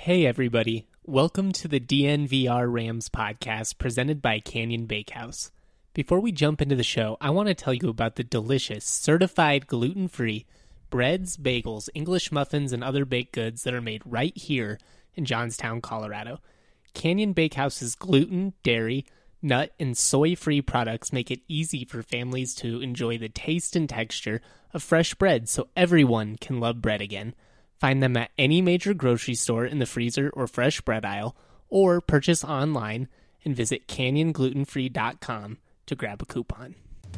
Hey everybody, welcome to the DNVR Rams podcast presented by Canyon Bakehouse. Before we jump into the show, I want to tell you about the delicious, certified gluten-free breads, bagels, English muffins, and other baked goods that are made right here in Johnstown, Colorado. Canyon Bakehouse's gluten, dairy, nut, and soy-free products make it easy for families to enjoy the taste and texture of fresh bread so everyone can love bread again. Find them at any major grocery store in the freezer or fresh bread aisle, or purchase online and visit canyonglutenfree.com to grab a coupon.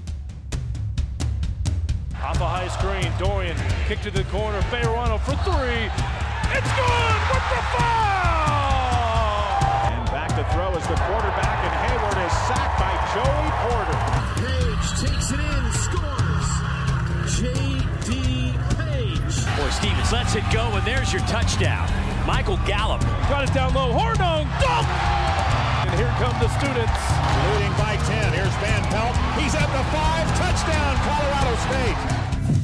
Off a high screen, Dorian, kick to the corner, Fayerano for three. It's good with the foul! And back to throw is the quarterback, and Hayward is sacked by Joey Porter. Page takes it in, scores. J.D. Page. Or Stevens lets it go, and there's your touchdown. Michael Gallup. Got it down low, Hornung, dunk! And here come the students. Leading by 10, here's Van Pelt. He's at the 5, touchdown, Colorado State.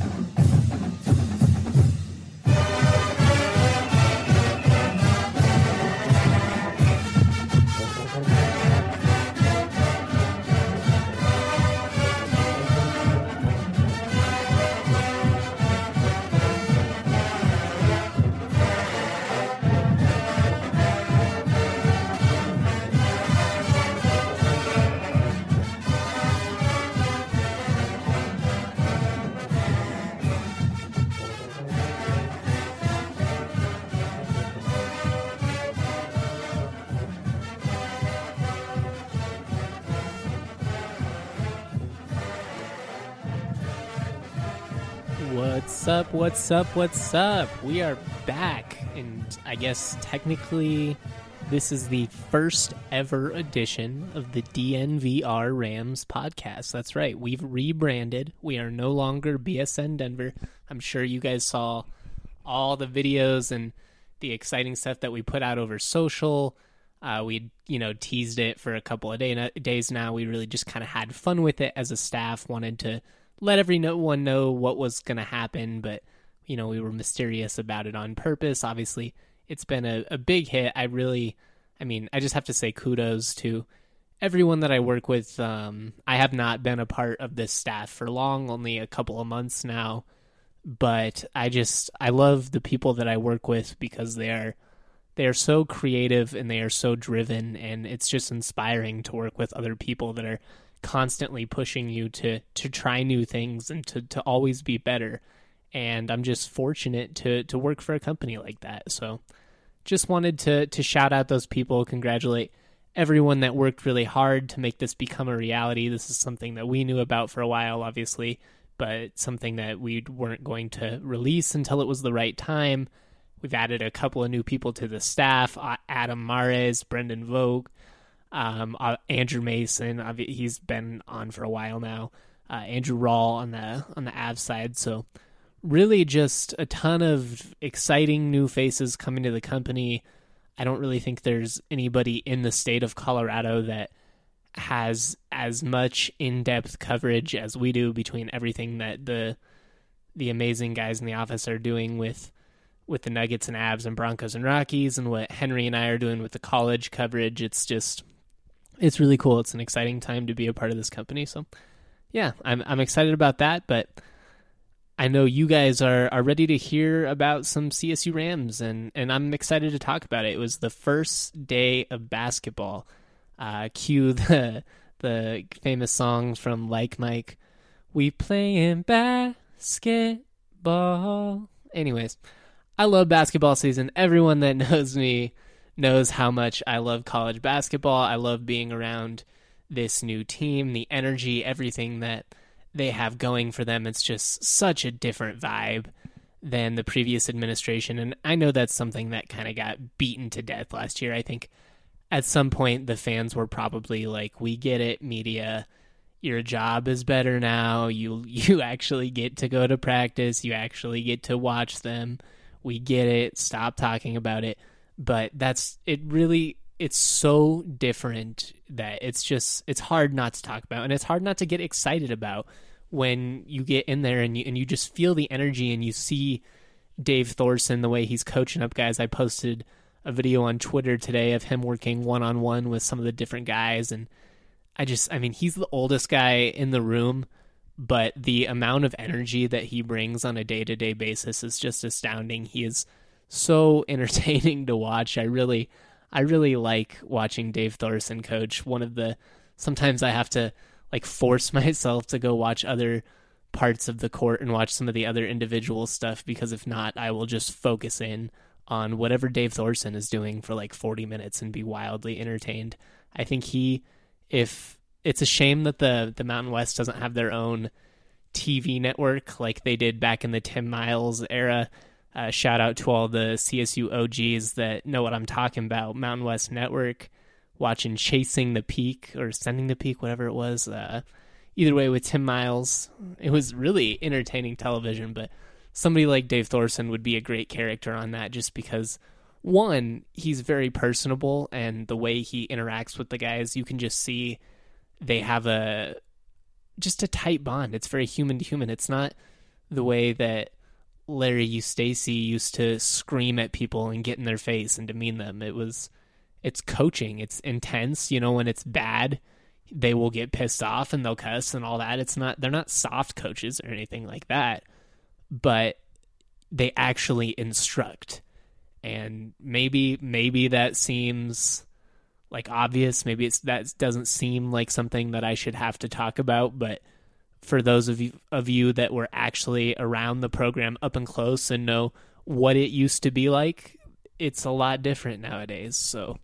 What's up? We are back, and I guess technically this is the first ever edition of the DNVR Rams podcast. That's right, we've rebranded. We are no longer BSN Denver. I'm sure you guys saw all the videos and the exciting stuff that we put out over social. We teased it for a couple of days now. We really just kind of had fun with it as a staff, wanted to let everyone know what was going to happen, but we were mysterious about it on purpose. Obviously, it's been a big hit. I just have to say kudos to everyone that I work with. I have not been a part of this staff for long, only a couple of months now, but I love the people that I work with because they are so creative and they are so driven, and it's just inspiring to work with other people that are constantly pushing you to try new things and to always be better. And I'm just fortunate to work for a company like that. So just wanted to shout out those people, congratulate everyone that worked really hard to make this become a reality. This is something that we knew about for a while, obviously, but something that we weren't going to release until it was the right time. We've added a couple of new people to the staff, Adam Mares, Brendan Vogt, Andrew Mason. He's been on for a while now. Andrew Rawl on the Avs side. So really just a ton of exciting new faces coming to the company. I don't really think there's anybody in the state of Colorado that has as much in-depth coverage as we do between everything that the amazing guys in the office are doing with the Nuggets and Avs and Broncos and Rockies, and what Henry and I are doing with the college coverage. It's really cool. It's an exciting time to be a part of this company. So yeah, I'm excited about that, but I know you guys are ready to hear about some CSU Rams, and I'm excited to talk about it. It was the first day of basketball. Cue the famous song from Like Mike, "We playing basketball." Anyways, I love basketball season. Everyone that knows me knows how much I love college basketball. I love being around this new team, the energy, everything that they have going for them. It's just such a different vibe than the previous administration. And I know that's something that kind of got beaten to death last year. I think at some point the fans were probably like, we get it, media. Your job is better now. You actually get to go to practice. You actually get to watch them. We get it. Stop talking about it. But it's so different that it's hard not to talk about, and it's hard not to get excited about when you get in there and you just feel the energy and you see Dave Thorson, the way he's coaching up guys. I posted a video on Twitter today of him working one-on-one with some of the different guys. And I mean, he's the oldest guy in the room, but the amount of energy that he brings on a day-to-day basis is just astounding. He is so entertaining to watch. I really like watching Dave Thorson coach. Sometimes I have to like force myself to go watch other parts of the court and watch some of the other individual stuff, because if not, I will just focus in on whatever Dave Thorson is doing for like 40 minutes and be wildly entertained. I think if it's a shame that the Mountain West doesn't have their own TV network like they did back in the Tim Miles era. Shout out to all the CSU OGs that know what I'm talking about. Mountain West Network, watching Chasing the Peak or Sending the Peak, whatever it was. Either way, with Tim Miles, it was really entertaining television, but somebody like Dave Thorson would be a great character on that, just because, one, he's very personable, and the way he interacts with the guys, you can just see they have just a tight bond. It's very human to human. It's not the way that Larry Eustace used to scream at people and get in their face and demean them. It's coaching. It's intense. When it's bad, they will get pissed off and they'll cuss and all that. They're not soft coaches or anything like that, but they actually instruct. And maybe that seems like obvious. Maybe that doesn't seem like something that I should have to talk about, but for those of you that were actually around the program up and close and know what it used to be like, it's a lot different nowadays. So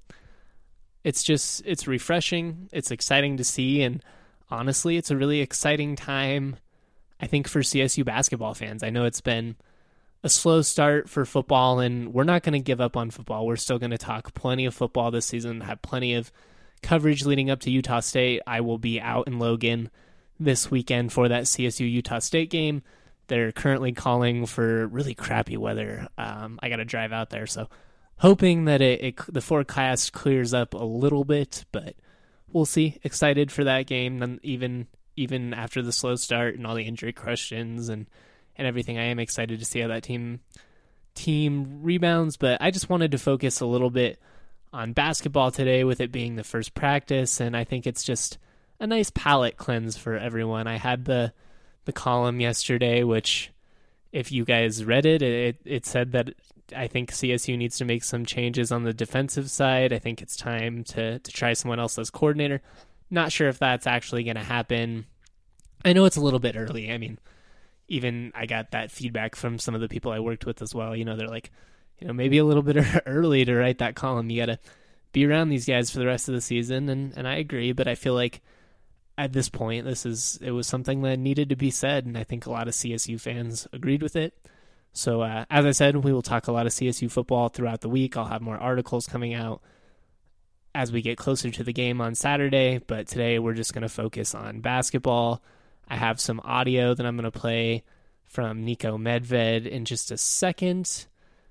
it's refreshing. It's exciting to see. And honestly, it's a really exciting time, I think, for CSU basketball fans. I know it's been a slow start for football, and we're not going to give up on football. We're still going to talk plenty of football this season, have plenty of coverage leading up to Utah State. I will be out in Logan this weekend for that CSU-Utah State game. They're currently calling for really crappy weather. I got to drive out there, so hoping that the forecast clears up a little bit, but we'll see. Excited for that game, and even after the slow start and all the injury questions and everything. I am excited to see how that team rebounds, but I just wanted to focus a little bit on basketball today, with it being the first practice, and I think it's just a nice palate cleanse for everyone. I had the column yesterday, which, if you guys read it said that I think CSU needs to make some changes on the defensive side. I think it's time to try someone else as coordinator. Not sure if that's actually going to happen. I know it's a little bit early. I mean, even I got that feedback from some of the people I worked with as well. They're like, maybe a little bit early to write that column. You got to be around these guys for the rest of the season. And I agree, but I feel like at this point, it was something that needed to be said. And I think a lot of CSU fans agreed with it. So as I said, we will talk a lot of CSU football throughout the week. I'll have more articles coming out as we get closer to the game on Saturday. But today we're just going to focus on basketball. I have some audio that I'm going to play from Niko Medved in just a second.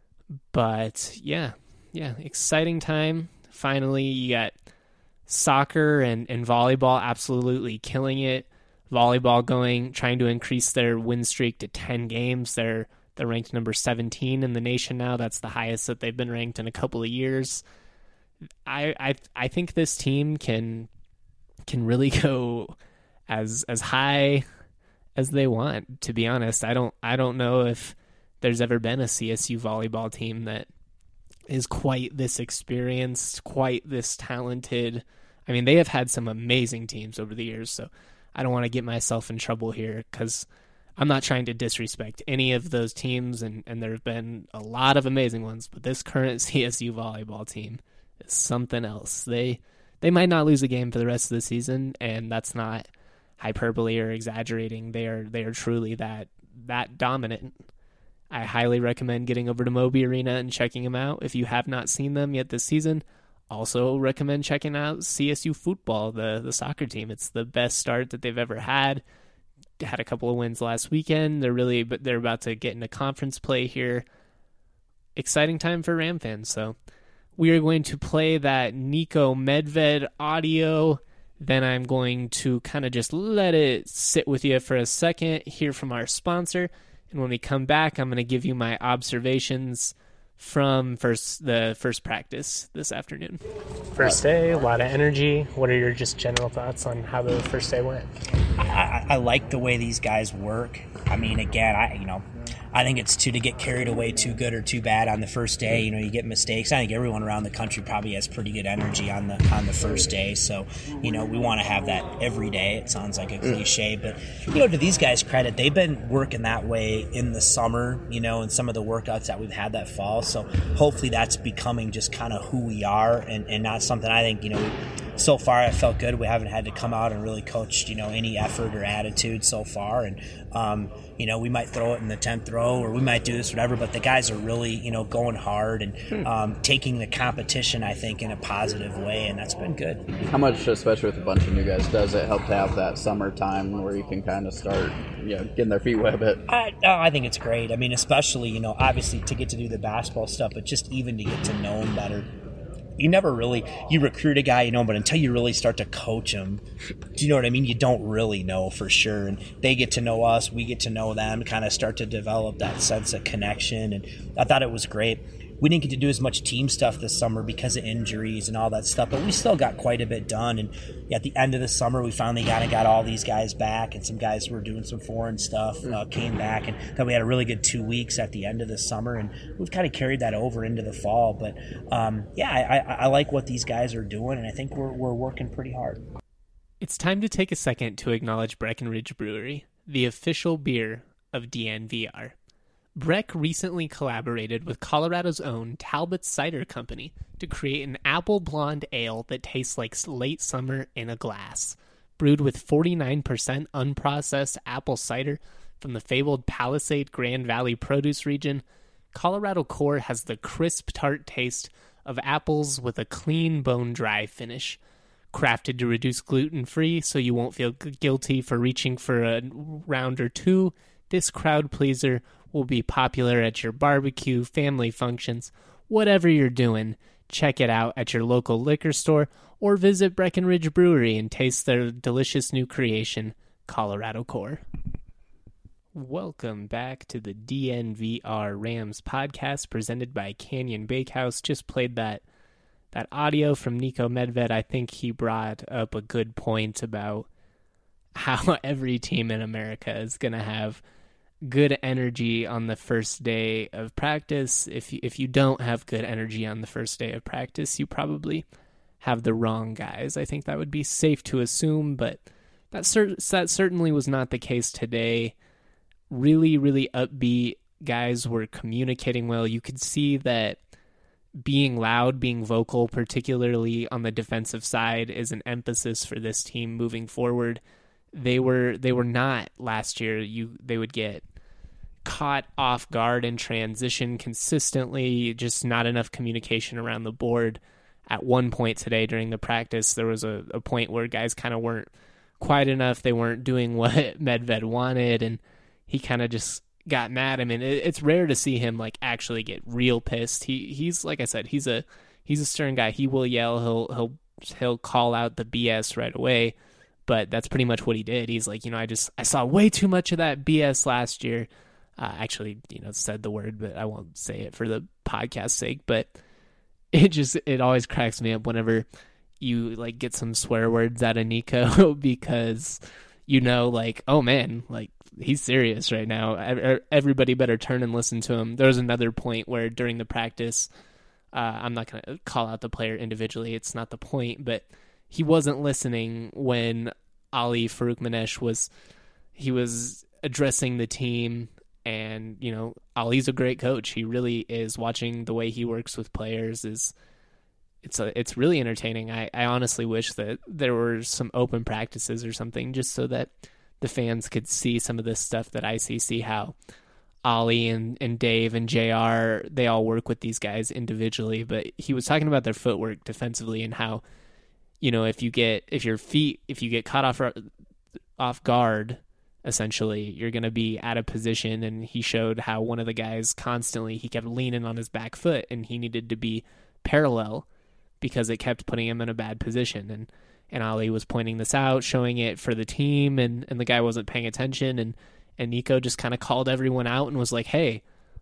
But yeah, exciting time. Finally, you got soccer and volleyball absolutely killing it. Volleyball trying to increase their win streak to 10 games. They're ranked number 17 in the nation now. That's the highest that they've been ranked in a couple of years. I think this team can really go as high as they want, to be honest. I don't know if there's ever been a CSU volleyball team that is quite this experienced, quite this talented. I mean, they have had some amazing teams over the years, so I don't want to get myself in trouble here, because I'm not trying to disrespect any of those teams, and there have been a lot of amazing ones, but this current CSU volleyball team is something else. They might not lose a game for the rest of the season, and that's not hyperbole or exaggerating. They are truly that dominant. I highly recommend getting over to Moby Arena and checking them out if you have not seen them yet this season. Also recommend checking out CSU football, the soccer team. It's the best start that they've ever had. Had a couple of wins last weekend. They're about to get into conference play here. Exciting time for Ram fans. So we are going to play that Niko Medved audio. Then I'm going to kind of just let it sit with you for a second, hear from our sponsor. And when we come back, I'm going to give you my observations from the first practice this afternoon? First day, a lot of energy. What are your just general thoughts on how the first day went? I like the way these guys work. I mean, again, I think it's to get carried away too good or too bad on the first day. You get mistakes. I think everyone around the country probably has pretty good energy on the first day. So, we want to have that every day. It sounds like a cliche, but to these guys' credit, they've been working that way in the summer, and some of the workouts that we've had that fall. So hopefully that's becoming just kind of who we are and not something I think, so far it felt good. We haven't had to come out and really coach, any effort or attitude so far. And, we might throw it in the 10th row or we might do this, whatever, but the guys are really, going hard and taking the competition, I think, in a positive way, and that's been good. How much, especially with a bunch of new guys, does it help to have that summertime where you can kind of start getting their feet wet a bit? I think it's great. I mean, especially, obviously to get to do the basketball stuff, but just even to get to know them better. You recruit a guy, but until you really start to coach him, do you know what I mean? You don't really know for sure. And they get to know us, we get to know them, kind of start to develop that sense of connection. And I thought it was great. We didn't get to do as much team stuff this summer because of injuries and all that stuff, but we still got quite a bit done. And at the end of the summer, we finally got all these guys back, and some guys who were doing some foreign stuff came back. And then we had a really good 2 weeks at the end of the summer, and we've kind of carried that over into the fall. But, I like what these guys are doing, and I think we're working pretty hard. It's time to take a second to acknowledge Breckenridge Brewery, the official beer of DNVR. Breck recently collaborated with Colorado's own Talbot Cider Company to create an apple blonde ale that tastes like late summer in a glass. Brewed with 49% unprocessed apple cider from the fabled Palisade Grand Valley produce region, Colorado Core has the crisp, tart taste of apples with a clean, bone-dry finish. Crafted to reduce gluten-free so you won't feel guilty for reaching for a round or two, this crowd pleaser will be popular at your barbecue, family functions, whatever you're doing. Check it out at your local liquor store or visit Breckenridge Brewery and taste their delicious new creation, Colorado Core. Welcome back to the DNVR Rams podcast presented by Canyon Bakehouse. Just played that audio from Nico Medved. I think he brought up a good point about how every team in America is going to have good energy on the first day of practice. If you don't have good energy on the first day of practice, you probably have the wrong guys. I think that would be safe to assume, but that certainly was not the case today. Really, really upbeat guys were communicating well. You could see that being loud, being vocal, particularly on the defensive side, is an emphasis for this team moving forward. They were not last year. They would get caught off guard in transition consistently, just not enough communication around the board. At one point today during the practice, there was a point where guys kind of weren't quiet enough. They weren't doing what Medved wanted, and he kind of just got mad. I mean, it's rare to see him actually get real pissed. He's like I said, he's a stern guy. He will yell. He'll call out the BS right away. But that's pretty much what he did. He's like, I saw way too much of that BS last year. Actually, said the word, but I won't say it for the podcast's sake. But it always cracks me up whenever you get some swear words out of Nico because oh man, he's serious right now. Everybody better turn and listen to him. There was another point where during the practice, I'm not going to call out the player individually. It's not the point, but he wasn't listening when Ali Faroukmanesh was addressing the team, and Ali's a great coach. He really is. Watching the way he works with players it's really entertaining. I honestly wish that there were some open practices or something just so that the fans could see some of this stuff that I see how Ali and Dave and JR, they all work with these guys individually, but he was talking about their footwork defensively and how if you get caught off guard, essentially, you're going to be out of position. And he showed how one of the guys he kept leaning on his back foot, and he needed to be parallel because it kept putting him in a bad position. And Ali was pointing this out, showing it for the team, and the guy wasn't paying attention. And Nico just kind of called everyone out and was like, hey,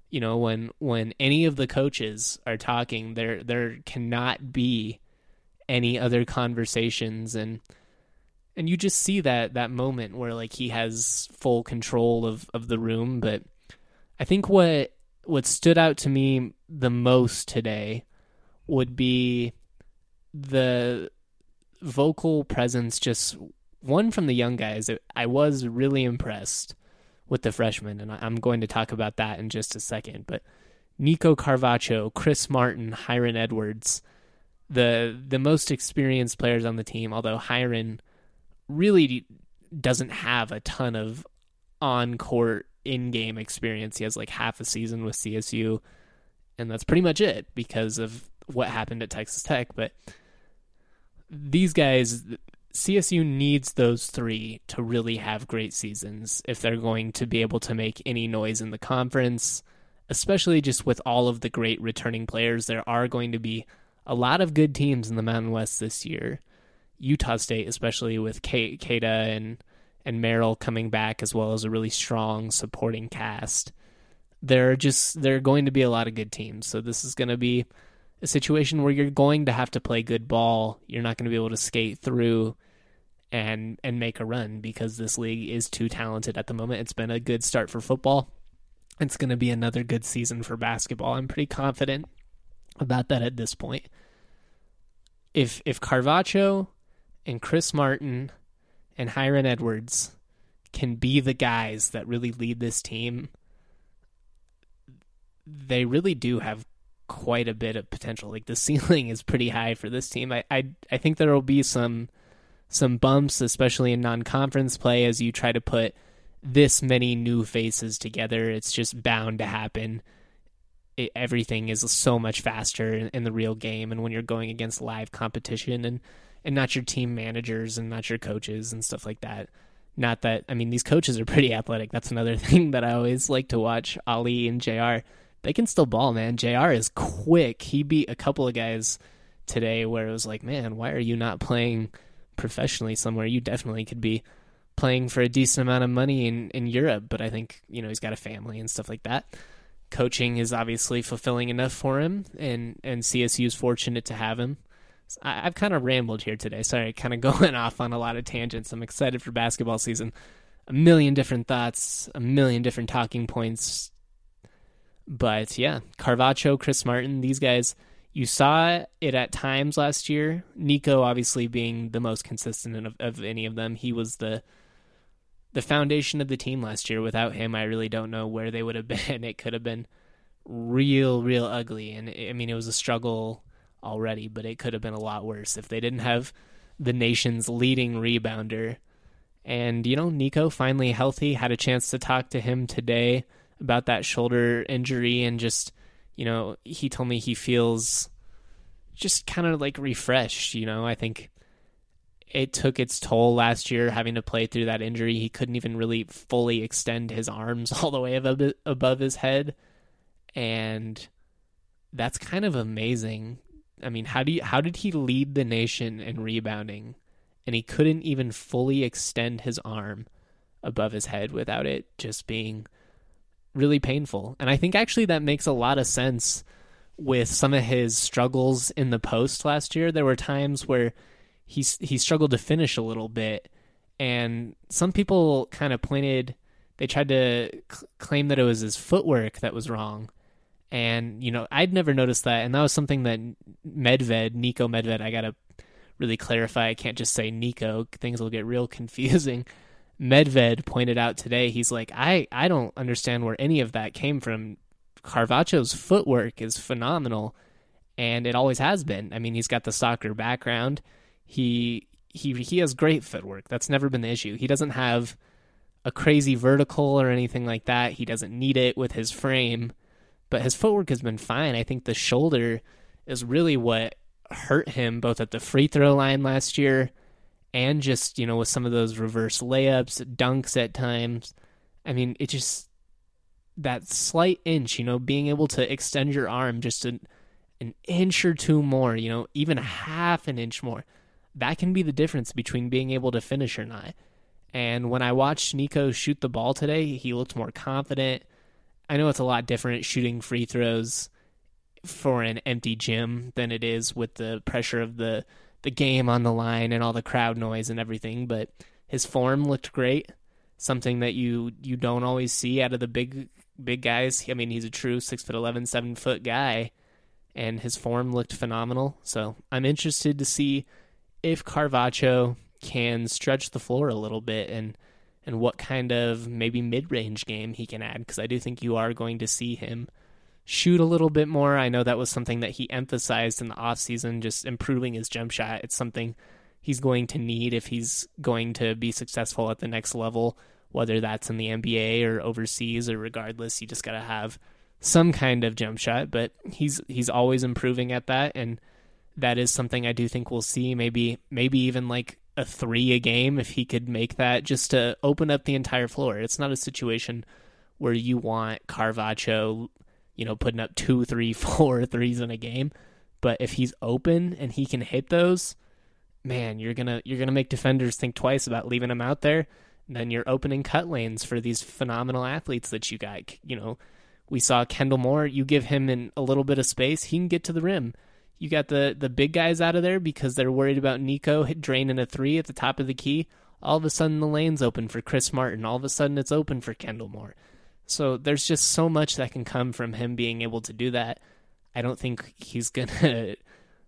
You know, when any of the coaches are talking, there cannot be any other conversations, and you just see that moment where like he has full control of the room. But I think what stood out to me the most today would be the vocal presence, just one from the young guys. I was really impressed with the freshmen, and I'm going to talk about that in just a second. But Nico Carvacho, Chris Martin, Hiron Edwards, the most experienced players on the team, although Hiron really doesn't have a ton of on-court, in-game experience. He has like half a season with CSU, and that's pretty much it because of what happened at Texas Tech. But these guys, CSU needs those three to really have great seasons if they're going to be able to make any noise in the conference, especially just with all of the great returning players. There are going to be a lot of good teams in the Mountain West this year. Utah State, especially with Keita and Merrill coming back, as well as a really strong supporting cast. There are going to be a lot of good teams. So this is going to be a situation where you're going to have to play good ball. You're not going to be able to skate through and make a run because this league is too talented at the moment. It's been a good start for football. It's going to be another good season for basketball. I'm pretty confident about that at this point. If Carvacho and Chris Martin and Hiron Edwards can be the guys that really lead this team, they really do have quite a bit of potential. Like, the ceiling is pretty high for this team. I think there will be some bumps, especially in non-conference play, as you try to put this many new faces together. It's just bound to happen. Everything is so much faster in the real game, and when you're going against live competition and not your team managers and not your coaches and stuff like that. Not that, I mean, these coaches are pretty athletic. That's another thing that I always like to watch. Ali and JR, they can still ball, man. JR is quick. He beat a couple of guys today where it was like, man, why are you not playing professionally somewhere? You definitely could be playing for a decent amount of money in Europe, but I think, you know, he's got a family and stuff like that. Coaching is obviously fulfilling enough for him, and CSU is fortunate to have him. I've kind of rambled here today. Sorry, kind of going off on a lot of tangents. I'm excited for basketball season. A million different thoughts, a million different talking points. But yeah, Carvacho, Chris Martin, these guys, you saw it at times last year. Nico obviously being the most consistent of any of them. He was the foundation of the team last year. Without him, I really don't know where they would have been. It could have been real ugly. And I mean, it was a struggle already, but it could have been a lot worse if they didn't have the nation's leading rebounder. And, you know, Nico finally healthy, had a chance to talk to him today about that shoulder injury, and just, you know, he told me he feels just kind of like refreshed. You know, I think it took its toll last year having to play through that injury. He couldn't even really fully extend his arms all the way above his head, and that's kind of amazing. I mean, how did he lead the nation in rebounding, and he couldn't even fully extend his arm above his head without it just being really painful? And I think actually that makes a lot of sense with some of his struggles in the post last year. There were times where he struggled to finish a little bit, and some people kind of they tried to claim that it was his footwork that was wrong. And, you know, I'd never noticed that. And that was something that Nico Medved, I got to really clarify. I can't just say Nico. Things will get real confusing. Medved pointed out today, he's like, I don't understand where any of that came from. Carvacho's footwork is phenomenal, and it always has been. I mean, he's got the soccer background. He has great footwork. That's never been the issue. He doesn't have a crazy vertical or anything like that. He doesn't need it with his frame. But his footwork has been fine. I think the shoulder is really what hurt him both at the free throw line last year and just, you know, with some of those reverse layups, dunks at times. I mean, it just, that slight inch, you know, being able to extend your arm just an inch or two more, you know, even half an inch more, that can be the difference between being able to finish or not. And when I watched Nico shoot the ball today, he looked more confident. I know it's a lot different shooting free throws for an empty gym than it is with the pressure of the game on the line and all the crowd noise and everything, but his form looked great, something that you don't always see out of the big guys. I mean, he's a true 6'11", 7-foot guy, and his form looked phenomenal. So I'm interested to see if Carvacho can stretch the floor a little bit and what kind of maybe mid-range game he can add, because I do think you are going to see him shoot a little bit more. I know that was something that he emphasized in the offseason, just improving his jump shot. It's something he's going to need if he's going to be successful at the next level, whether that's in the NBA or overseas or regardless. You just got to have some kind of jump shot, but he's always improving at that, and that is something I do think we'll see. Maybe even like a 3 a game if he could make that, just to open up the entire floor. It's not a situation where you want Carvacho, putting up 2, 3, 4 threes in a game. But if he's open and he can hit those, man, you're gonna make defenders think twice about leaving him out there. And then you're opening cut lanes for these phenomenal athletes that you got. We saw Kendall Moore. You give him a little bit of space, he can get to the rim. You got the big guys out of there because they're worried about Nico draining a 3 at the top of the key. All of a sudden the lane's open for Chris Martin. All of a sudden it's open for Kendall Moore. So there's just so much that can come from him being able to do that. I don't think he's going to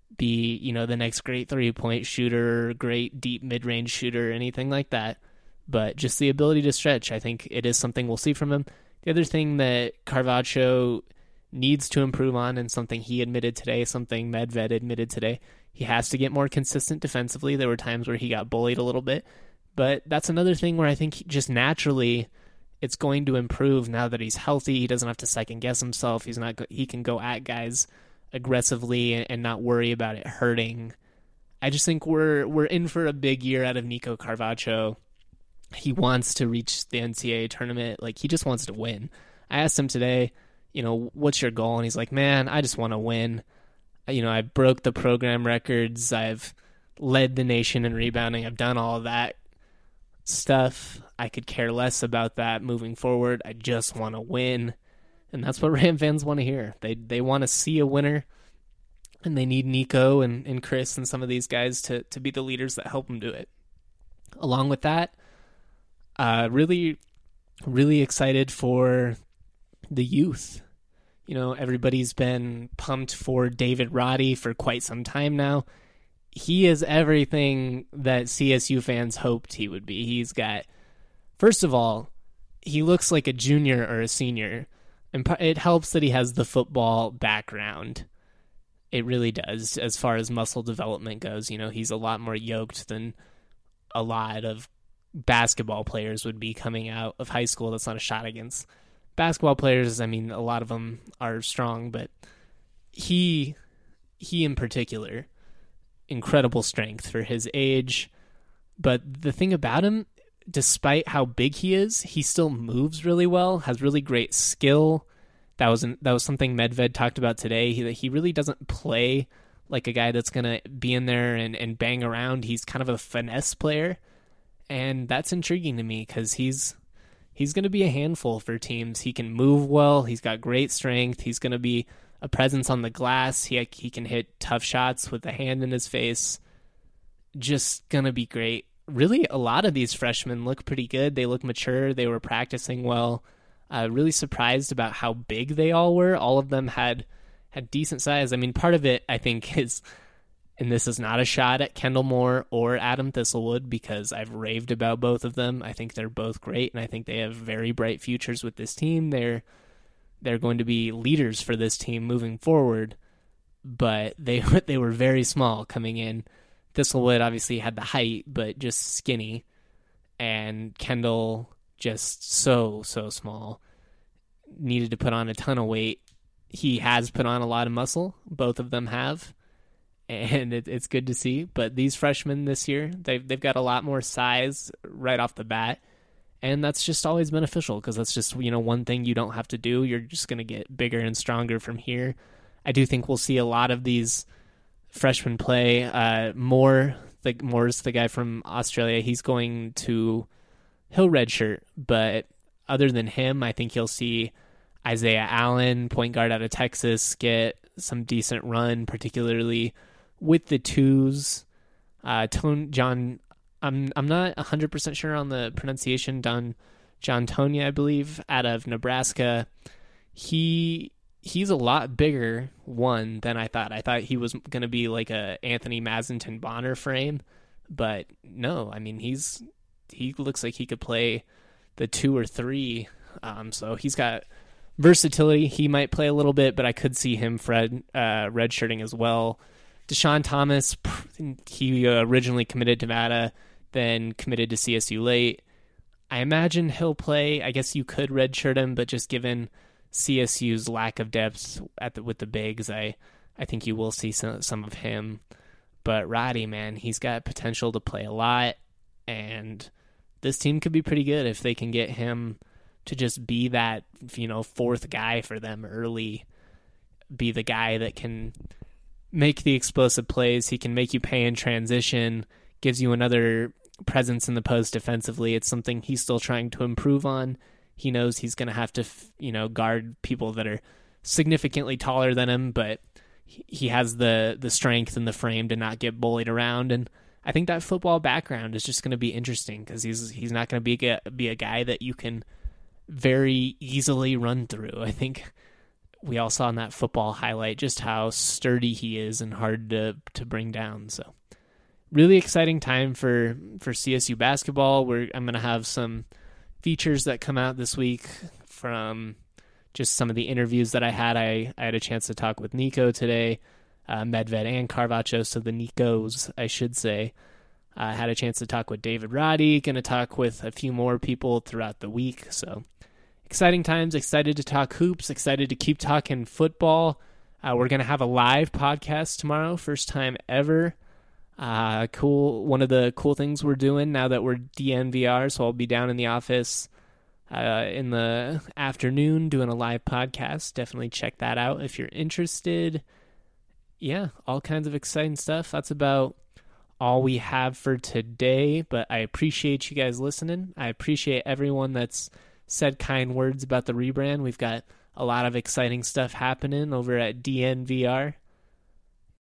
be, the next great 3-point shooter, great deep mid-range shooter, anything like that. But just the ability to stretch, I think it is something we'll see from him. The other thing that Carvacho needs to improve on, and something he admitted today, something Medved admitted today, he has to get more consistent defensively. There were times where he got bullied a little bit. But that's another thing where I think just naturally it's going to improve now that he's healthy. He doesn't have to second guess himself. He can go at guys aggressively and not worry about it hurting. I just think we're in for a big year out of Nico Carvacho. He wants to reach the NCAA tournament. Like, he just wants to win. I asked him today, what's your goal? And he's like, man, I just want to win. I broke the program records. I've led the nation in rebounding. I've done all of that stuff. I could care less about that moving forward. I just want to win. And that's what Ram fans want to hear. They want to see a winner, and they need Nico and Chris and some of these guys to be the leaders that help them do it. Along with that, really, really excited for the youth. Everybody's been pumped for David Roddy for quite some time now. He is everything that CSU fans hoped he would be. He's got, first of all, he looks like a junior or a senior, and it helps that he has the football background. It really does, as far as muscle development goes. He's a lot more yoked than a lot of basketball players would be coming out of high school. That's not a shot against basketball players. I mean, a lot of them are strong, but he in particular, incredible strength for his age. But the thing about him, despite how big he is, he still moves really well, has really great skill. That was something Medved talked about today. He really doesn't play like a guy that's going to be in there and bang around. He's kind of a finesse player, and that's intriguing to me because he's going to be a handful for teams. He can move well. He's got great strength. He's going to be a presence on the glass. He can hit tough shots with a hand in his face. Just going to be great. Really, a lot of these freshmen look pretty good. They look mature. They were practicing well. Really surprised about how big they all were. All of them had decent size. I mean, part of it, I think, is, and this is not a shot at Kendall Moore or Adam Thistlewood, because I've raved about both of them. I think they're both great, and I think they have very bright futures with this team. They're going to be leaders for this team moving forward, but they were very small coming in. Thistlewood obviously had the height, but just skinny, and Kendall just so small. Needed to put on a ton of weight. He has put on a lot of muscle. Both of them have, and it's good to see. But these freshmen this year, they've got a lot more size right off the bat, and that's just always beneficial because that's just one thing you don't have to do. You're just going to get bigger and stronger from here. I do think we'll see a lot of these freshmen play. Moore's the guy from Australia. He'll redshirt, but other than him, I think you'll see Isaiah Allen, point guard out of Texas, get some decent run, particularly with the twos. John, I'm not 100% sure on the pronunciation. John Tonya, I believe, out of Nebraska. He's a lot bigger than I thought. I thought he was going to be like a Anthony Mazenton Bonner frame, but no. I mean, he looks like he could play the 2 or 3. So he's got versatility. He might play a little bit, but I could see him redshirting as well. Deshaun Thomas, he originally committed to Nevada, then committed to CSU late. I imagine he'll play. I guess you could redshirt him, but just given CSU's lack of depth with the bigs, I think you will see some of him. But Roddy, man, he's got potential to play a lot, and this team could be pretty good if they can get him to just be that, fourth guy for them early, be the guy that can make the explosive plays. He can make you pay in transition, gives you another presence in the post defensively. It's something he's still trying to improve on. He knows he's going to have to, guard people that are significantly taller than him, but he has the strength and the frame to not get bullied around. And I think that football background is just going to be interesting because he's not going to be a guy that you can very easily run through. I think we all saw in that football highlight just how sturdy he is and hard to bring down. So really exciting time for CSU basketball. I'm going to have some features that come out this week from just some of the interviews that I had. I had a chance to talk with Nico today, Medved and Carvacho, so the Nicos, I should say. I had a chance to talk with David Roddy, going to talk with a few more people throughout the week. So exciting times, excited to talk hoops, excited to keep talking football. We're going to have a live podcast tomorrow, first time ever. Cool. One of the cool things we're doing now that we're DNVR, so I'll be down in the office in the afternoon doing a live podcast. Definitely check that out if you're interested. Yeah, all kinds of exciting stuff. That's about all we have for today, but I appreciate you guys listening. I appreciate everyone that's said kind words about the rebrand. We've got a lot of exciting stuff happening over at DNVR.